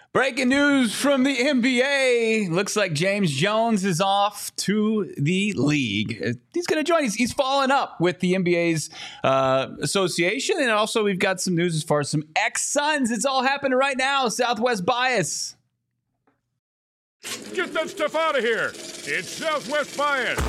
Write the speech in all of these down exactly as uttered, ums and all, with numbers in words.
Breaking news from the N B A. Looks like James Jones is off to the league. He's going to join. He's, he's following up with the N B A's uh, association. And also we've got some news as far as some ex-Suns. It's all happening right now. Southwest Bias. Get that stuff out of here. It's Southwest Bias.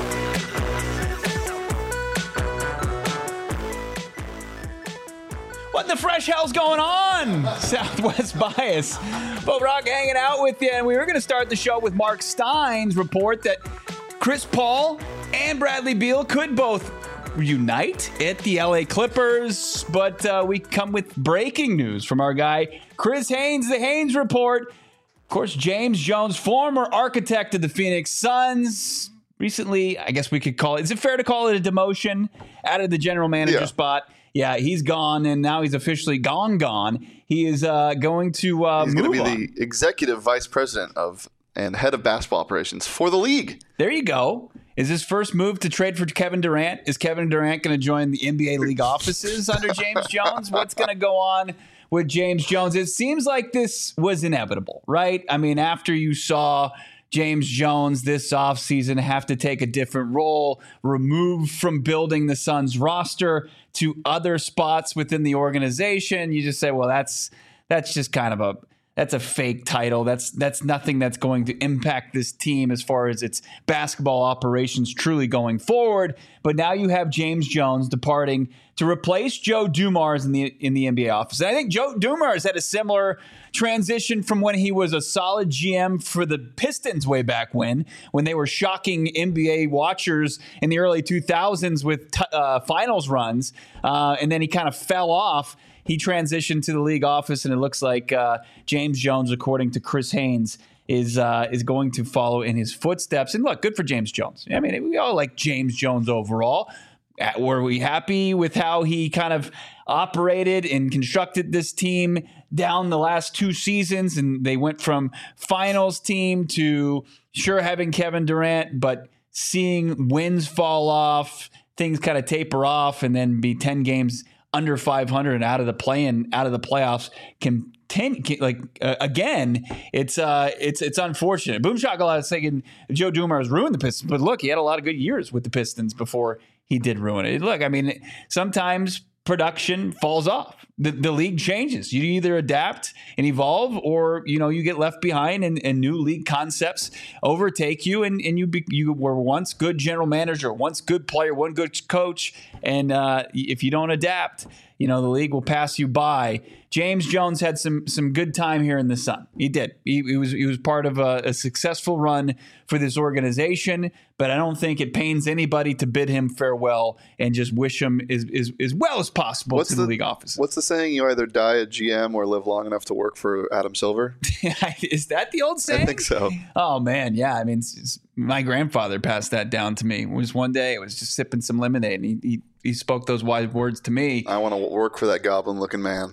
What the fresh hell's going on? Southwest Bias. Bo Brock hanging out with you. And we were going to start the show with Mark Stein's report that Chris Paul and Bradley Beal could both reunite at the L A Clippers. But uh, we come with breaking news from our guy, Chris Haynes, the Haynes Report. Of course, James Jones, former architect of the Phoenix Suns. Recently, I guess we could call it, is it fair to call it a demotion out of the general manager yeah. spot? Yeah, he's gone, and now he's officially gone, gone. He is uh, going to uh, He's move going to be on. the executive vice president of and head of basketball operations for the league. There you go. Is his first move to trade for Kevin Durant? Is Kevin Durant going to join the N B A league offices under James Jones? What's going to go on with James Jones? It seems like this was inevitable, right? I mean, after you saw James Jones this offseason have to take a different role, removed from building the Suns roster to other spots within the organization, you just say, well, that's that's just kind of a that's a fake title. That's that's nothing that's going to impact this team as far as its basketball operations truly going forward. But now you have James Jones departing to replace Joe Dumars in the in the N B A office. And I think Joe Dumars had a similar transition from when he was a solid G M for the Pistons way back when, when they were shocking N B A watchers in the early two thousands with t- uh, finals runs. Uh, and then he kind of fell off. He transitioned to the league office, and it looks like uh, James Jones, according to Chris Haynes, is uh, is going to follow in his footsteps. And look, good for James Jones. I mean, we all like James Jones overall. Were we happy with how he kind of operated and constructed this team down the last two seasons? And they went from finals team to sure having Kevin Durant, but seeing wins fall off, things kind of taper off, and then be ten games under five hundred and out of the play-in, out of the playoffs. Can ten, like uh, again, it's uh, it's it's unfortunate. Boom Shakalaka is thinking Joe Dumars ruined the Pistons, but look, he had a lot of good years with the Pistons before he did ruin it. Look, I mean, sometimes production falls off. The, the league changes. You either adapt and evolve, or you know you get left behind, and, and new league concepts overtake you. And, and you be, you were once good general manager, once good player, one good coach, and uh, if you don't adapt, you know the league will pass you by. James Jones had some some good time here in the Sun. He did. He, he was he was part of a, a successful run for this organization, but I don't think it pains anybody to bid him farewell and just wish him as, as, as well as possible what's to the, the league office. What's the saying? You either die a G M or live long enough to work for Adam Silver? Is that the old saying? I think so. Oh, man. Yeah. I mean, it's, it's, my grandfather passed that down to me. It was one day, it was just sipping some lemonade, and he, he, he spoke those wise words to me. I want to work for that goblin-looking man.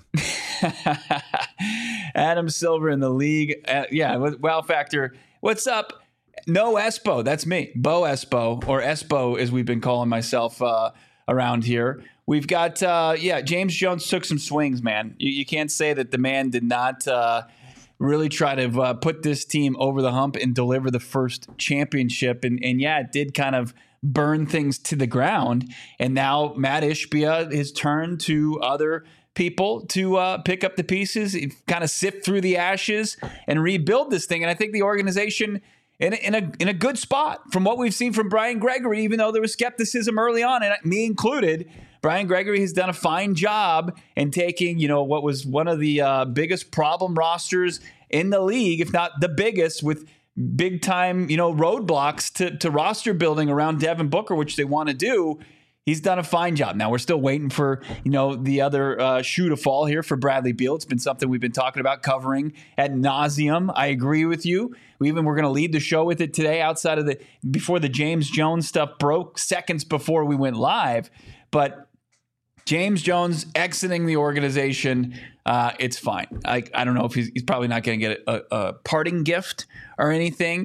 Adam Silver in the league. Uh, yeah. Wow Factor. What's up? No Espo. That's me. Bo Espo, or Espo as we've been calling myself uh, around here. We've got, uh, yeah, James Jones took some swings, man. You, you can't say that the man did not uh, really try to uh, put this team over the hump and deliver the first championship. And, and yeah, it did kind of burn things to the ground. And now Matt Ishbia has turned to other people to uh, pick up the pieces, kind of sift through the ashes and rebuild this thing. And I think the organization in a, in a in a good spot from what we've seen from Brian Gregory, even though there was skepticism early on, and me included. Brian Gregory has done a fine job in taking, you know, what was one of the uh, biggest problem rosters in the league, if not the biggest, with big time, you know, roadblocks to, to roster building around Devin Booker, which they want to do. He's done a fine job. Now we're still waiting for, you know, the other uh, shoe to fall here for Bradley Beal. It's been something we've been talking about, covering ad nauseum. I agree with you. We even we're going to lead the show with it today, outside of the before the James Jones stuff broke, seconds before we went live. But James Jones exiting the organization, uh, it's fine. I I don't know if he's he's probably not going to get a, a parting gift or anything. But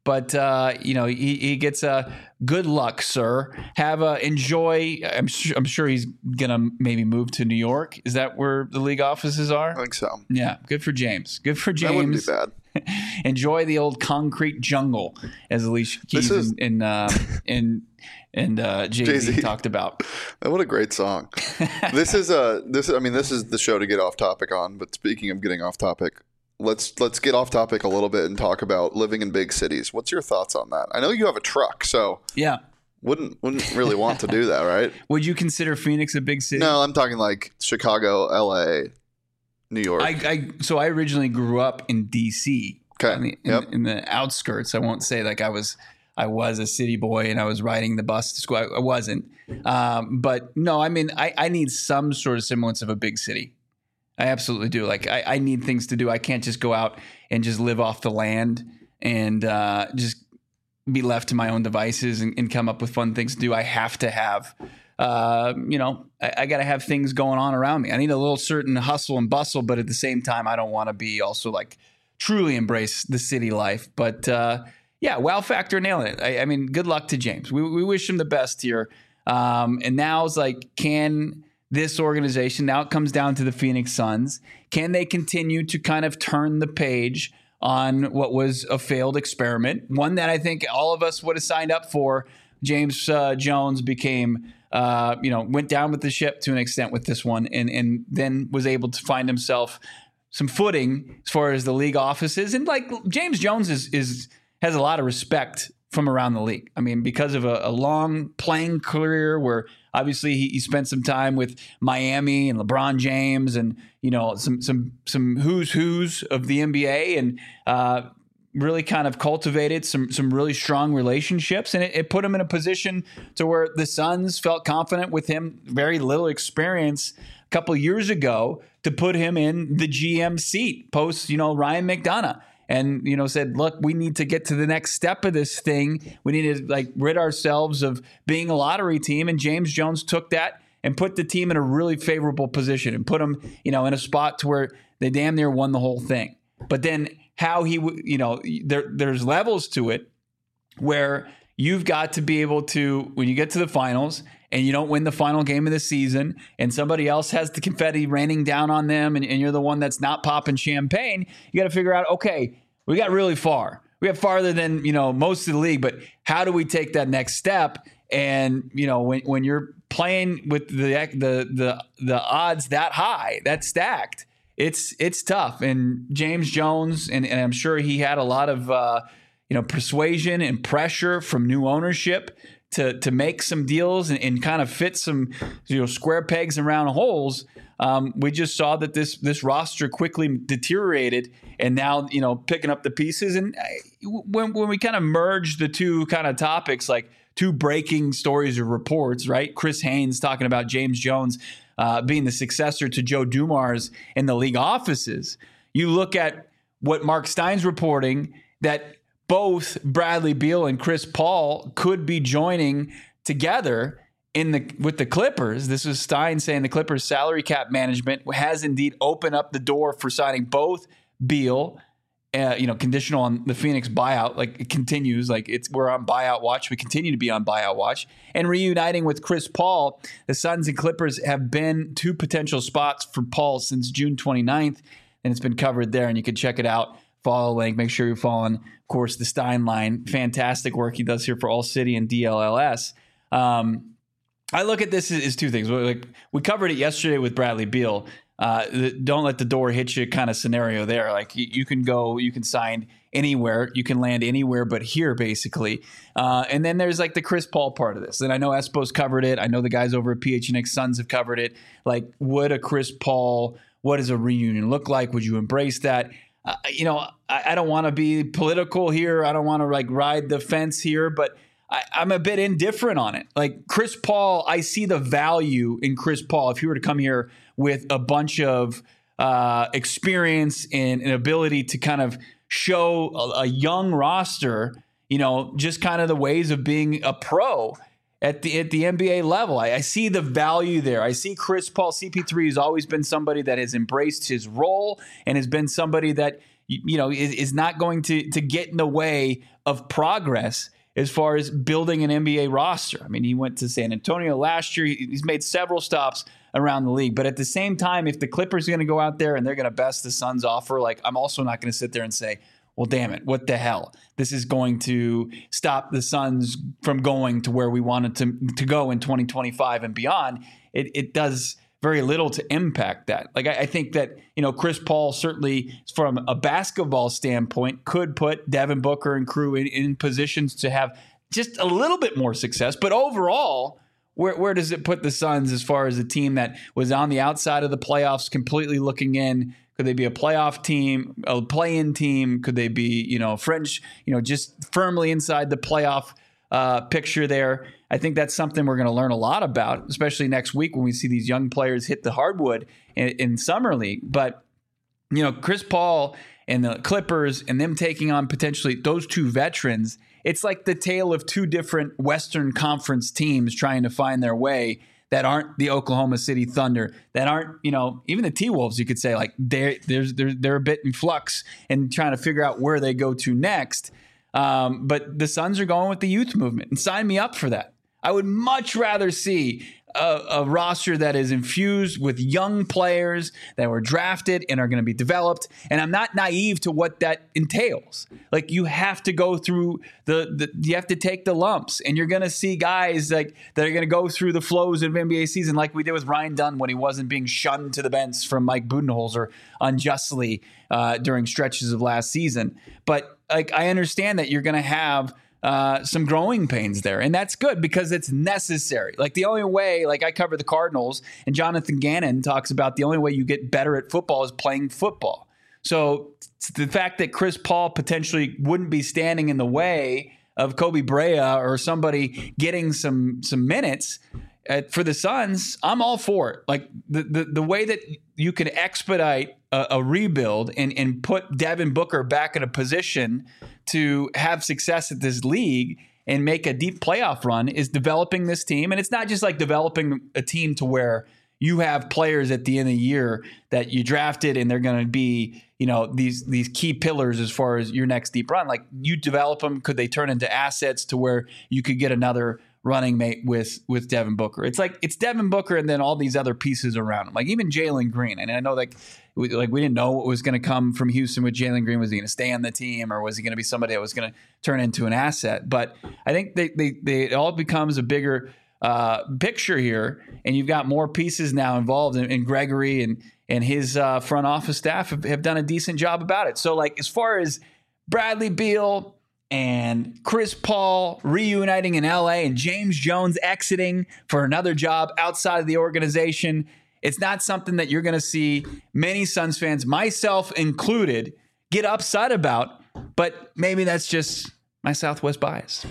But uh, you know, he, he gets a uh, good luck, sir. Have a enjoy. I'm sure, I'm sure he's gonna maybe move to New York. Is that where the league offices are? I think so. Yeah, good for James. Good for James. That wouldn't be bad. Enjoy the old concrete jungle, as Alicia Keys is, and uh, and and uh, Jay-Z talked about. What a great song! This is a this. I mean, this is the show to get off topic on. But speaking of getting off topic, let's let's get off topic a little bit and talk about living in big cities. What's your thoughts on that? I know you have a truck, so yeah, wouldn't wouldn't really want to do that, right? Would you consider Phoenix a big city? No, I'm talking like Chicago, L A, New York. I, I so I originally grew up in D C. Okay. In the, in, yep. in the outskirts. I won't say like I was I was a city boy and I was riding the bus to school. I, I wasn't. Um, but no, I mean I, I need some sort of semblance of a big city. I absolutely do. Like I, I need things to do. I can't just go out and just live off the land and uh, just be left to my own devices and, and come up with fun things to do. I have to have Uh, you know, I, I got to have things going on around me. I need a little certain hustle and bustle, but at the same time, I don't want to be also like truly embrace the city life. But uh, yeah, wow factor nailing it. I, I mean, good luck to James. We, we wish him the best here. Um, and now it's like, can this organization, now it comes down to the Phoenix Suns, can they continue to kind of turn the page on what was a failed experiment? One that I think all of us would have signed up for. James uh, Jones became, uh, you know, went down with the ship to an extent with this one, and and then was able to find himself some footing as far as the league offices. And like James Jones is is has a lot of respect from around the league. I mean, because of a, a long playing career where obviously he, he spent some time with Miami and LeBron James and, you know, some some some who's who's of the N B A, and uh, really kind of cultivated some some really strong relationships, and it, it put him in a position to where the Suns felt confident with him, very little experience a couple of years ago, to put him in the G M seat post, you know, Ryan McDonough, and, you know, said, look, we need to get to the next step of this thing. We need to like rid ourselves of being a lottery team. And James Jones took that and put the team in a really favorable position and put them, you know, in a spot to where they damn near won the whole thing. But then how he, you know, there there's levels to it where you've got to be able to, when you get to the finals and you don't win the final game of the season and somebody else has the confetti raining down on them, and, and you're the one that's not popping champagne, you got to figure out, okay, we got really far. We got farther than, you know, most of the league, but how do we take that next step? And, you know, when, when you're playing with the, the, the, the odds that high, that stacked, It's it's tough. And James Jones, and, and I'm sure he had a lot of uh, you know persuasion and pressure from new ownership to to make some deals and, and kind of fit some you know square pegs in round holes. Um, we just saw that this this roster quickly deteriorated, and now you know picking up the pieces. And when when we kind of merge the two kind of topics, like two breaking stories or reports, right? Chris Haynes talking about James Jones Uh, being the successor to Joe Dumars in the league offices. You look at what Mark Stein's reporting, that both Bradley Beal and Chris Paul could be joining together in the with the Clippers. This is Stein saying the Clippers salary cap management has indeed opened up the door for signing both Beal, uh, you know, conditional on the Phoenix buyout. Like it continues, like it's we're on buyout watch. We continue to be on buyout watch, and reuniting with Chris Paul. The Suns and Clippers have been two potential spots for Paul since June twenty-ninth, and it's been covered there. And you can check it out. Follow the link. Make sure you're following, of course, the Stein line. Fantastic work he does here for All City and D L L S. Um, I look at this as, as two things. Like we covered it yesterday with Bradley Beal. Uh, the, don't let the door hit you kind of scenario there. Like you, you can go, you can sign anywhere, you can land anywhere but here, basically. Uh, and then there's like the Chris Paul part of this. And I know Espo's covered it. I know the guys over at P H N X Suns have covered it. Like, would a Chris Paul, what does a reunion look like? Would you embrace that? Uh, you know, I, I don't want to be political here. I don't want to like ride the fence here, but I, I'm a bit indifferent on it. Like Chris Paul, I see the value in Chris Paul. If he were to come here with a bunch of uh, experience and an ability to kind of show a, a young roster, you know, just kind of the ways of being a pro at the at the N B A level. I, I see the value there. I see Chris Paul. C P three has always been somebody that has embraced his role and has been somebody that you, you know, is, is not going to to get in the way of progress as far as building an N B A roster. I mean, he went to San Antonio last year. He's made several stops around the league. But at the same time, if the Clippers are going to go out there and they're going to best the Suns offer, like, I'm also not going to sit there and say, well, damn it, what the hell? This is going to stop the Suns from going to where we wanted to, to go in twenty twenty-five and beyond. It, it does very little to impact that. Like, I, I think that, you know, Chris Paul certainly from a basketball standpoint could put Devin Booker and crew in, in positions to have just a little bit more success. But overall, where, where does it put the Suns as far as a team that was on the outside of the playoffs, completely looking in? Could they be a playoff team, a play-in team? Could they be, you know, French, you know, just firmly inside the playoff uh, picture there? I think that's something we're going to learn a lot about, especially next week when we see these young players hit the hardwood in, in Summer League. But, you know, Chris Paul and the Clippers and them taking on potentially those two veterans, it's like the tale of two different Western Conference teams trying to find their way that aren't the Oklahoma City Thunder, that aren't, you know, even the T-Wolves, you could say, like, they're, they're, they're, they're a bit in flux and trying to figure out where they go to next. Um, but the Suns are going with the youth movement, and sign me up for that. I would much rather see a, a roster that is infused with young players that were drafted and are going to be developed. And I'm not naive to what that entails. Like, you have to go through the, the you have to take the lumps, and you're going to see guys like that are going to go through the flows of N B A season, like we did with Ryan Dunn when he wasn't being shunned to the bench from Mike Budenholzer unjustly uh, during stretches of last season. But like, I understand that you're going to have Uh, some growing pains there. And that's good because it's necessary. Like, the only way, like, I cover the Cardinals, and Jonathan Gannon talks about the only way you get better at football is playing football. So the fact that Chris Paul potentially wouldn't be standing in the way of Kobe Brea or somebody getting some some minutes uh, for the Suns, I'm all for it. Like, the the, the way that you can expedite a, a rebuild and, and put Devin Booker back in a position to have success at this league and make a deep playoff run is developing this team. And it's not just like developing a team to where you have players at the end of the year that you drafted and they're going to be, you know, these these key pillars as far as your next deep run. Like, you develop them. Could they turn into assets to where you could get another running mate with with Devin Booker? It's like, it's Devin Booker and then all these other pieces around him, like even Jalen Green. And I know, like, we, like we didn't know what was going to come from Houston with Jalen Green. Was he going to stay on the team, or was he going to be somebody that was going to turn into an asset? But I think they, they, they it all becomes a bigger uh, picture here, and you've got more pieces now involved. And, and Gregory and and his uh, front office staff have, have done a decent job about it. So, like, as far as Bradley Beal and Chris Paul reuniting in L A and James Jones exiting for another job outside of the organization, it's not something that you're going to see many Suns fans, myself included, get upset about. But maybe that's just my Southwest bias.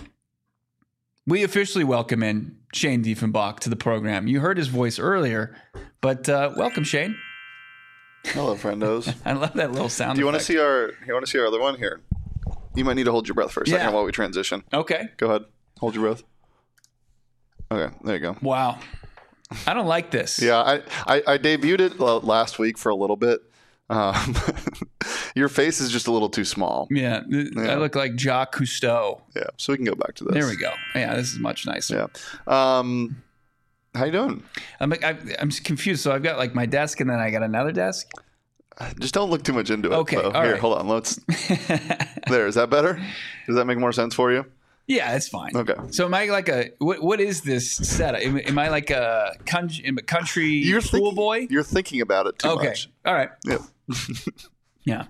We officially welcome in Shane Diefenbach to the program. You heard his voice earlier, but uh, welcome, Shane. Hello, friendos. I love that little sound. Do you want to see our? You want to see our other one here? You might need to hold your breath for a second Yeah. while we transition. Okay. Go ahead. Hold your breath. Okay, there you go. Wow. I don't like this. Yeah, I, I, I debuted it last week for a little bit. Um, your face is just a little too small. Yeah, Yeah. I look like Jacques Cousteau. Yeah, so we can go back to this. There we go. Yeah, this is much nicer. Yeah. Um, how you doing? I'm I, I'm confused. So I've got like my desk, and then I got another desk. Just don't look too much into it. Okay, though. all Here, right. hold on. Let's. There. Is that better? Does that make more sense for you? Yeah, it's fine. Okay. So am I like a what? What is this setup? Am, am I like a country, am I country You're school thinking, boy? You're thinking about it too Okay. much. All right. Yep. Yeah.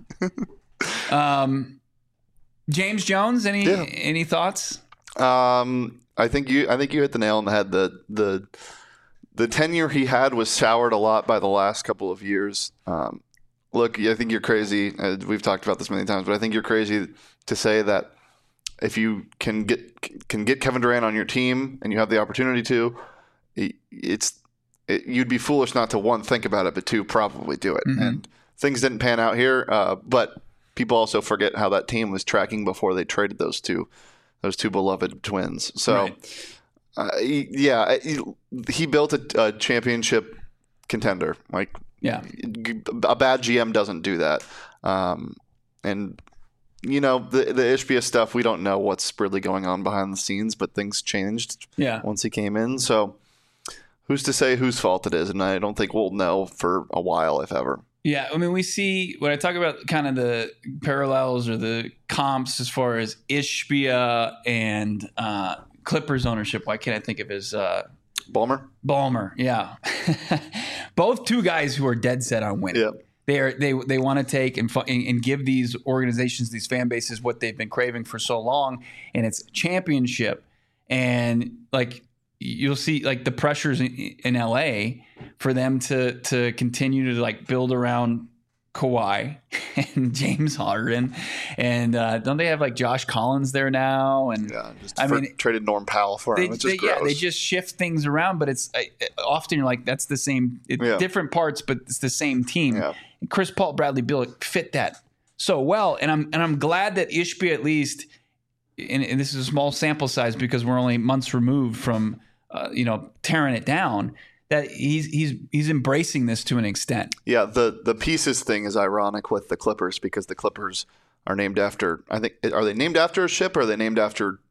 um, James Jones. Any Yeah. any thoughts? Um, I think you. I think you hit the nail on the head. The the the tenure he had was soured a lot by the last couple of years. Um, look, I think you're crazy. Uh, we've talked about this many times, but I think you're crazy to say that if you can get can get Kevin Durant on your team and you have the opportunity to, it's it, you'd be foolish not to, one, think about it, but two, probably do it. Mm-hmm. And things didn't pan out here, uh, but people also forget how that team was tracking before they traded those two those two beloved twins. So. Right. Uh, he, yeah, he, he built a, a championship contender. Like, Yeah. a bad G M doesn't do that. Um, and you know the the Ishbia stuff. We don't know what's really going on behind the scenes, but things changed. Yeah. Once he came in, so who's to say whose fault it is? And I don't think we'll know for a while, if ever. Yeah, I mean, we see when I talk about kind of the parallels or the comps as far as Ishbia and uh, Clippers ownership. Why can't I think of his uh, Ballmer? Ballmer? Yeah, both two guys who are dead set on winning. Yeah. They are they they want to take and, fu- and give these organizations, these fan bases, what they've been craving for so long, and it's championship. And like you'll see, like the pressures in, in L A for them to to continue to like build around Kawhi and James Harden, and uh, don't they have like Josh Collins there now? And Yeah, just I for, mean, traded Norm Powell for they, him. It's they, just yeah, gross. they just shift things around, but it's uh, often you're like that's the same, it, Yeah. different parts, but it's the same team. Yeah. And Chris Paul, Bradley Beal fit that so well, and I'm and I'm glad that Ishbia at least, and, and this is a small sample size because we're only months removed from uh, you know tearing it down. That he's he's he's embracing this to an extent. Yeah, the the pieces thing is ironic with the Clippers because the Clippers are named after. I think are they named after a ship or are they named after?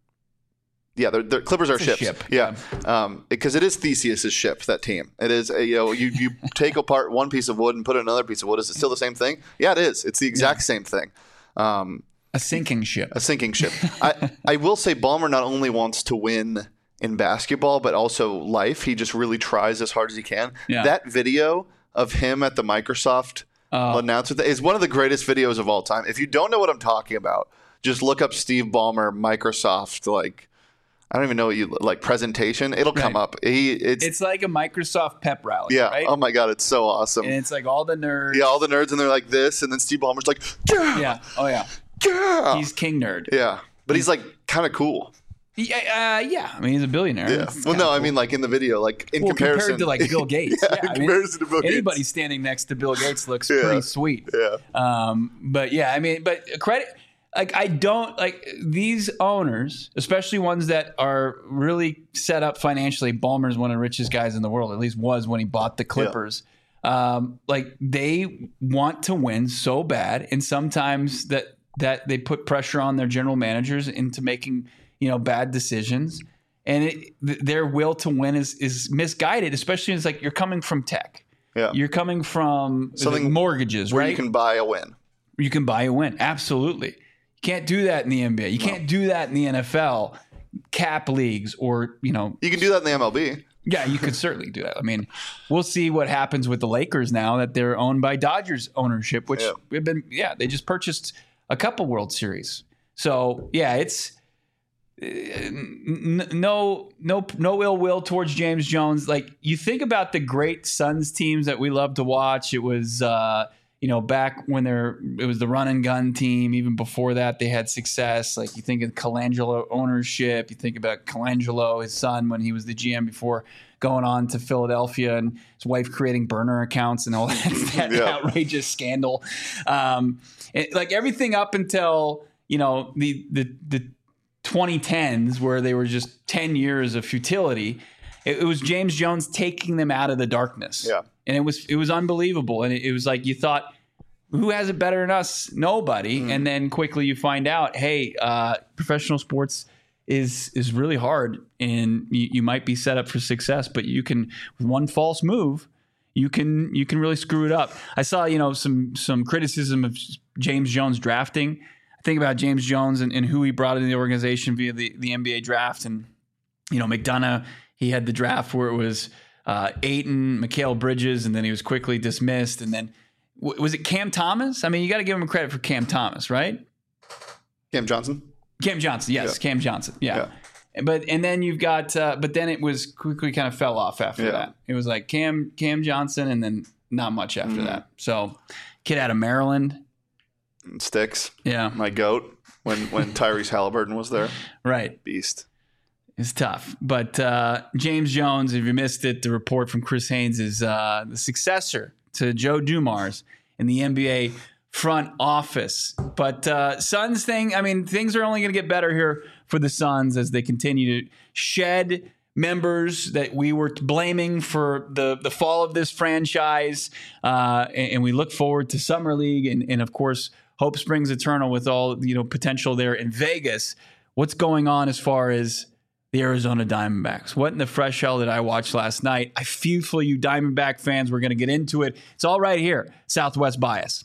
Yeah, they're, they're, Clippers are It's a ships. ship. Yeah, um, because it is Theseus's ship. That team. It is. A, you know, you you take apart one piece of wood and put in another piece of wood. Is it still the same thing? Yeah, it is. It's the exact same thing. Um, A sinking ship. a sinking ship. I I will say Ballmer not only wants to win in basketball, but also life. He just really tries as hard as he can. Yeah. That video of him at the Microsoft Oh. announcement is one of the greatest videos of all time. If you don't know what I'm talking about, just look up Steve Ballmer Microsoft. Like I don't even know what you like presentation. It'll come Right. up. He it's, It's like a Microsoft pep rally. yeah. Right? Oh my god, it's so awesome. And it's like all the nerds. Yeah, all the nerds and they're like this, and then Steve Ballmer's like, yeah, Yeah. Oh yeah. yeah, He's king nerd. yeah. But he's like kind of cool. Yeah. Uh, yeah. I mean, he's a billionaire. Yeah. It's Well, kinda no, I cool. mean like in the video, like in Well, comparison compared to like Bill Gates. yeah, yeah, in I mean, comparison to Bill Gates. anybody standing next to Bill Gates looks Yeah. pretty sweet. Yeah. Um, but yeah, I mean, but credit, like I don't like these owners, especially ones that are really set up financially. Ballmer's one of the richest guys in the world, at least was when he bought the Clippers. Um, like they want to win so bad, and sometimes that that they put pressure on their general managers into making you know bad decisions, and it, th- their will to win is is misguided, especially as like you're coming from tech. Yeah. You're coming from Something like mortgages, where right? you can buy a win. You can buy a win. Absolutely. You can't do that in the N B A. You can't do that in the N F L, cap leagues, or, you know, You can do that in the M L B. yeah, you could certainly do that. I mean, we'll see what happens with the Lakers now that they're owned by Dodgers ownership, which Yeah. we've been, yeah, they just purchased a couple World Series. So, yeah, it's uh, n- no, no, no ill will towards James Jones. Like you think about the great Suns teams that we love to watch. It was, uh, you know, back when there, it was the run and gun team. Even before that, they had success. Like you think of Colangelo ownership. You think about Colangelo, his son, when he was the G M before going on to Philadelphia, and his wife creating burner accounts and all that, that Yeah. outrageous scandal. Um, it, like everything up until you know the the the twenty tens, where they were just ten years of futility. It, it was James Jones taking them out of the darkness. Yeah. And it was it was unbelievable. And it, it was like you thought, who has it better than us? Nobody. Mm. And then quickly you find out, hey, uh, professional sports is is really hard, and you, you might be set up for success, but you can, with one false move, you can you can really screw it up. I saw you know some some criticism of James Jones drafting. I think about James Jones and, and who he brought into the organization via the, the N B A draft, and you know McDonough. He had the draft where it was uh, Ayton, Mikal Bridges, and then he was quickly dismissed. And then w- was it Cam Thomas? I mean, you got to give him credit for Cam Thomas, right? Cam Johnson. Cam Johnson, yes, Yeah. Cam Johnson, yeah. But and then you've got, uh, but then it was quickly kind of fell off after Yeah. that. It was like Cam Cam Johnson, and then not much after Mhm. that. So, kid out of Maryland, Sticks. yeah, My goat. When when Tyrese Halliburton was there. right. Beast. It's tough. But uh, James Jones, if you missed it, the report from Chris Haynes is uh, the successor to Joe Dumars in the N B A front office. But uh, Suns thing, I mean, things are only going to get better here for the Suns as they continue to shed members that we were blaming for the, the fall of this franchise. Uh, and, and we look forward to Summer League and, and, of course, hope springs eternal with all, you know, potential there in Vegas. What's going on as far as the Arizona Diamondbacks? What in the fresh hell did I watch last night? I feel for you Diamondback fans. We're going to get into it. It's all right here. Southwest Bias.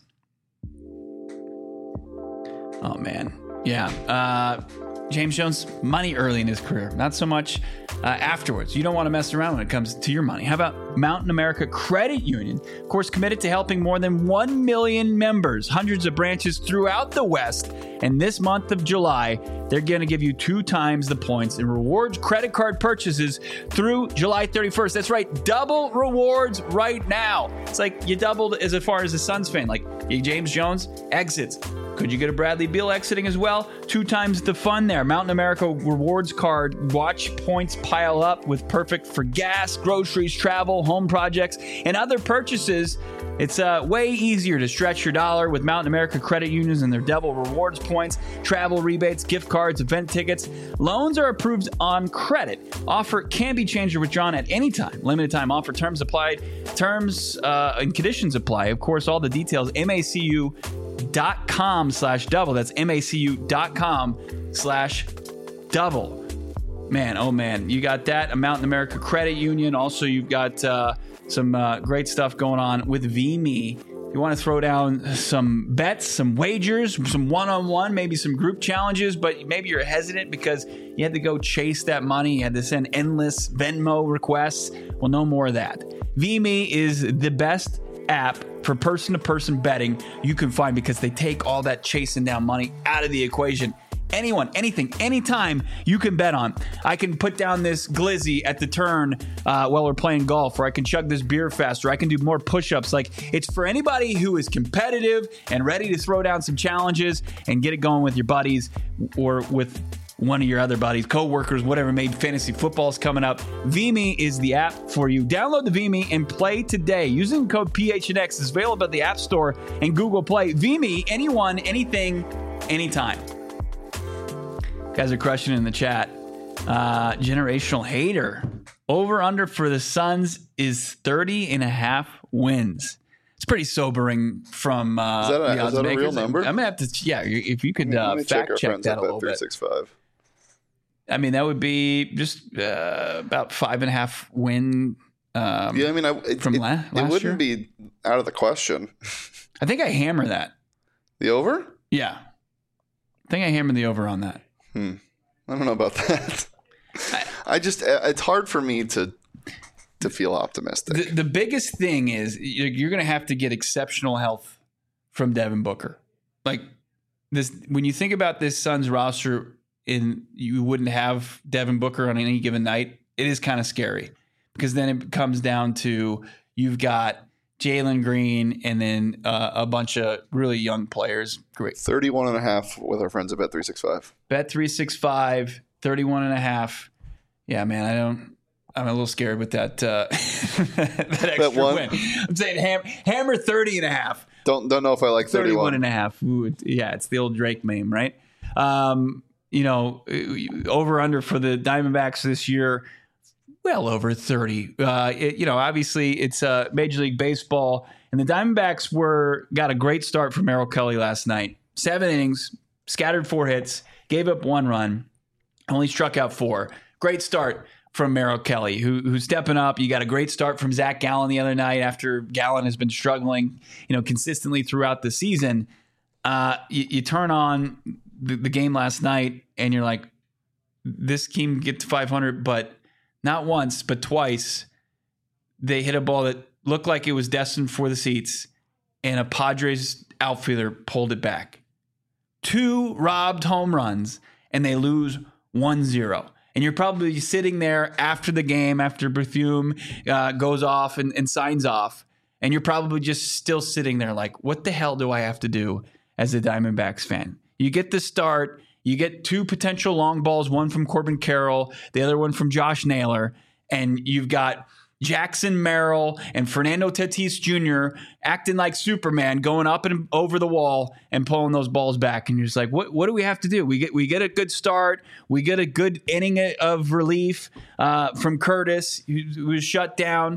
Oh, man. Yeah. Uh, James Jones, money early in his career. Not so much uh, afterwards. You don't want to mess around when it comes to your money. How about Mountain America Credit Union? Of course, committed to helping more than one million members, hundreds of branches throughout the West. And this month of July, they're going to give you two times the points in rewards credit card purchases through July thirty-first. That's right. Double rewards right now. It's like you doubled as far as a Suns fan. Like James Jones exits. Could you get a Bradley Beal exiting as well? Two times the fun there. Mountain America Rewards Card. Watch points pile up with perfect for gas, groceries, travel, home projects, and other purchases. It's uh, way easier to stretch your dollar with Mountain America Credit Unions and their double rewards points, travel rebates, gift cards, event tickets. Loans are approved on credit. Offer can be changed or withdrawn at any time. Limited time offer. Terms applied. Terms uh, and conditions apply. Of course, all the details. M A C U dot com slash double. That's M A C U dot com slash double. Man, oh man, you got that. A Mountain America Credit Union. Also, you've got uh, some uh, great stuff going on with V M E. You want to throw down some bets, some wagers, some one-on-one, maybe some group challenges, but maybe you're hesitant because you had to go chase that money. You had to send endless Venmo requests. Well, no more of that. V M E is the best app for person-to-person betting you can find because they take all that chasing down money out of the equation. Anyone, anything, anytime you can bet on. I can put down this glizzy at the turn uh, while we're playing golf, or I can chug this beer faster. I can do more push-ups. Like, it's for anybody who is competitive and ready to throw down some challenges and get it going with your buddies or with one of your other buddies, co-workers, whatever. Made fantasy football's coming up. V M E is the app for you. Download the V M E and play today. Using code P H N X is available at the App Store and Google Play. V M E, anyone, anything, anytime. Guys are crushing it in the chat. Uh, generational hater. Over under for the Suns is thirty and a half wins. It's pretty sobering from uh, is that a, the odds is that a real number? I'm gonna have to, yeah. If you could uh, fact check, check that a little bit. I mean, that would be just uh, about five and a half win. Um, yeah, I mean, I, it, from it, la- last it wouldn't year? be out of the question. I think I hammer that. The over? Yeah, I think I hammered the over on that. Hmm. I don't know about that. I, I just, it's hard for me to to feel optimistic. The, the biggest thing is you're going to have to get exceptional health from Devin Booker. Like this, when you think about this Suns roster, in you wouldn't have Devin Booker on any given night. It is kind of scary because then it comes down to you've got Jalen Green and then uh, a bunch of really young players. Great. thirty-one and a half with our friends at Bet three sixty-five. Bet three sixty-five, thirty-one and a half. Yeah, man, I don't, I'm a little scared with that, uh, that extra one. win. I'm saying ham, hammer thirty and a half. Don't, don't know if I like thirty-one. thirty-one and a half. Ooh, yeah, it's the old Drake meme, right? Um, you know, over under for the Diamondbacks this year, well over thirty. Uh, it, you know, obviously it's uh, Major League Baseball, and the Diamondbacks were got a great start from Merrill Kelly last night. Seven innings, scattered four hits, gave up one run, only struck out four. Great start from Merrill Kelly, who, who's stepping up. You got a great start from Zach Gallen the other night after Gallen has been struggling, you know, consistently throughout the season. Uh, you, you turn on the, the game last night, and you're like, this team get to five hundred, but not once, but twice, they hit a ball that looked like it was destined for the seats, and a Padres outfielder pulled it back. Two robbed home runs, and they lose one zero. And you're probably sitting there after the game, after Bethune uh, goes off and, and signs off, and you're probably just still sitting there like, what the hell do I have to do as a Diamondbacks fan? You get the start. You get two potential long balls, one from Corbin Carroll, the other one from Josh Naylor, and you've got Jackson Merrill and Fernando Tatis Junior acting like Superman, going up and over the wall and pulling those balls back. And you're just like, what what do we have to do? We get we get a good start. We get a good inning of relief uh, from Curtis, who, who was shut down.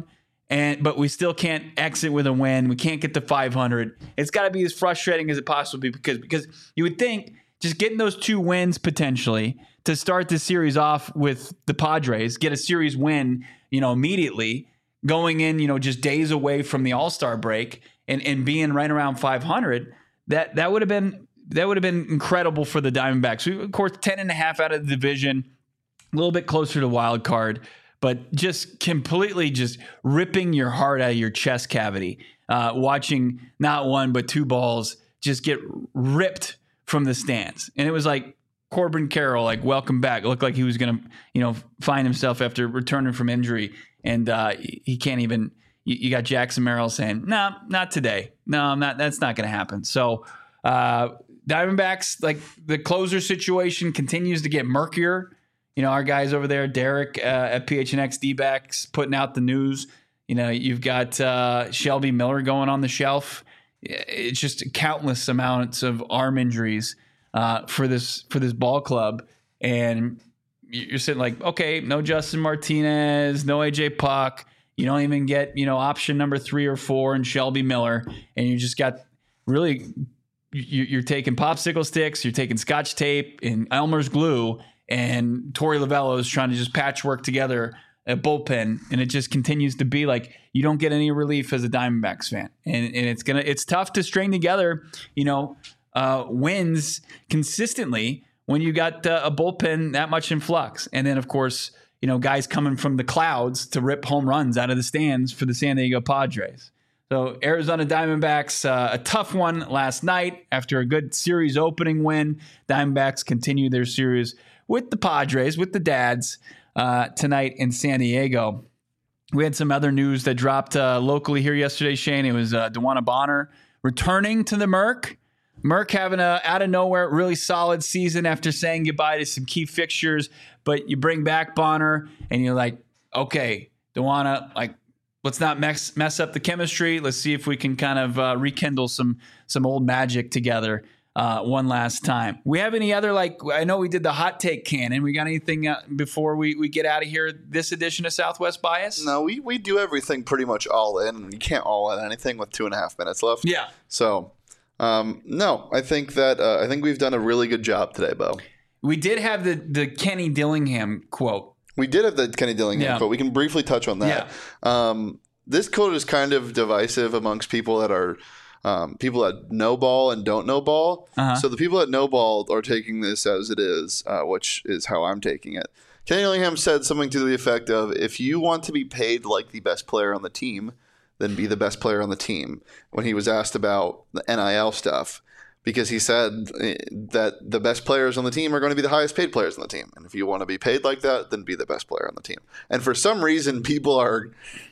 and but we still can't exit with a win. We can't get to five hundred. It's got to be as frustrating as it possibly because because you would think just getting those two wins potentially to start the series off with the Padres, get a series win, you know, immediately going in, you know, just days away from the All-Star break and, and being right around five hundred. That that would have been that would have been incredible for the Diamondbacks. We, of course, ten and a half out of the division, a little bit closer to wild card. But just completely just ripping your heart out of your chest cavity, uh, watching not one but two balls just get ripped from the stands. And it was like Corbin Carroll, like, welcome back. It looked like he was going to, you know, find himself after returning from injury. And uh, he can't even, you, you got Jackson Merrill saying, no, nah, not today. No, I'm not. That's not going to happen. So uh, Diamondbacks, like the closer situation continues to get murkier. You know, our guys over there, Derek uh, at P H N X D-backs, putting out the news. You know, you've got uh, Shelby Miller going on the shelf. It's just countless amounts of arm injuries uh, for this for this ball club. And you're sitting like, okay, no Justin Martinez, no A J Puck. You don't even get, you know, option number three or four and Shelby Miller. And you just got really, you're taking popsicle sticks, you're taking Scotch tape and Elmer's glue, and Torey Lovullo is trying to just patchwork together a bullpen, and it just continues to be like you don't get any relief as a Diamondbacks fan, and and it's gonna it's tough to string together, you know, uh, wins consistently when you got uh, a bullpen that much in flux, and then of course, you know, guys coming from the clouds to rip home runs out of the stands for the San Diego Padres. So Arizona Diamondbacks, uh, a tough one last night after a good series opening win. Diamondbacks continue their series with the Padres, with the Dads, uh, tonight in San Diego. We had some other news that dropped uh, locally here yesterday, Shane. It was uh, DeWanna Bonner returning to the Merc. Merc having a out of nowhere really solid season after saying goodbye to some key fixtures. But you bring back Bonner, and you're like, okay, DeWanna, like, let's not mess mess up the chemistry. Let's see if we can kind of uh, rekindle some some old magic together. Uh, one last time. We have any other, like, I know we did the hot take cannon. We got anything uh, before we, we get out of here this edition of Southwest Bias? No, we, we do everything pretty much all in. You can't all in anything with two and a half minutes left. Yeah. So, um, no, I think that uh, I think we've done a really good job today, Bo. We did have the, the Kenny Dillingham quote. We did have the Kenny Dillingham yeah. quote. We can briefly touch on that. Yeah. Um, this quote is kind of divisive amongst people that are Um, people that know ball and don't know ball. Uh-huh. So the people that know ball are taking this as it is, uh, which is how I'm taking it. Kenny Dillingham said something to the effect of, if you want to be paid like the best player on the team, then be the best player on the team, when he was asked about the N I L stuff. Because he said that the best players on the team are going to be the highest paid players on the team. And if you want to be paid like that, then be the best player on the team. And for some reason, people are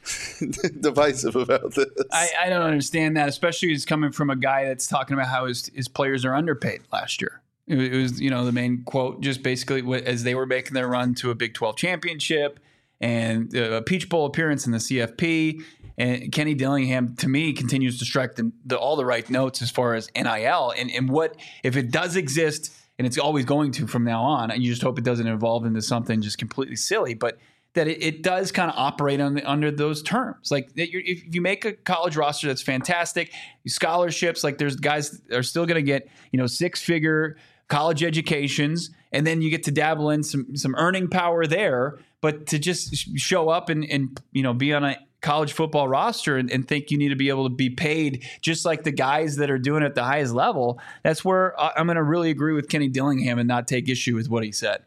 divisive about this. I, I don't understand that, especially as coming from a guy that's talking about how his, his players are underpaid last year. It, it was, you know, the main quote, just basically as they were making their run to a Big twelve championship and a Peach Bowl appearance in the C F P. And Kenny Dillingham, to me, continues to strike the, the, all the right notes as far as N I L. And, and what, if it does exist, and it's always going to from now on, and you just hope it doesn't evolve into something just completely silly, but that it, it does kind of operate on the, under those terms. Like, you're, if you make a college roster that's fantastic, scholarships, like there's guys that are still going to get, you know, six-figure college educations, and then you get to dabble in some some earning power there. But to just show up and, and you know, be on a college football roster and, and think you need to be able to be paid just like the guys that are doing it at the highest level, that's where I'm going to really agree with Kenny Dillingham and not take issue with what he said.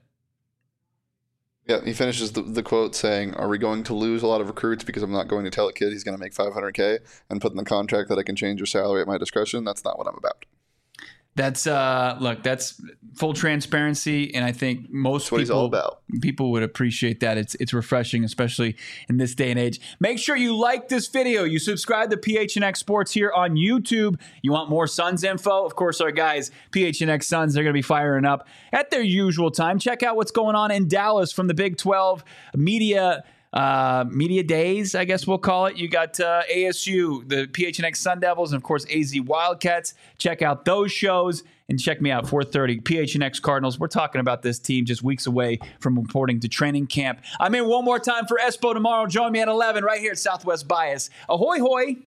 Yeah, he finishes the, the quote saying, are we going to lose a lot of recruits because I'm not going to tell a kid he's going to make five hundred K and put in the contract that I can change your salary at my discretion? That's not what I'm about. That's uh, look, that's full transparency, and I think most that's what people, he's all about. people would appreciate that. It's it's refreshing, especially in this day and age. Make sure you like this video. You subscribe to P H N X Sports here on YouTube. You want more Suns info? Of course, our guys, P H N X Suns, they're going to be firing up at their usual time. Check out what's going on in Dallas from the Big twelve media Uh, media days, I guess we'll call it. You got uh, A S U, the P H N X Sun Devils, and of course A Z Wildcats. Check out those shows. And check me out, four thirty, P H N X Cardinals. We're talking about this team just weeks away from reporting to training camp. I'm in one more time for Espo tomorrow. Join me at eleven right here at Southwest Bias. Ahoy, hoy.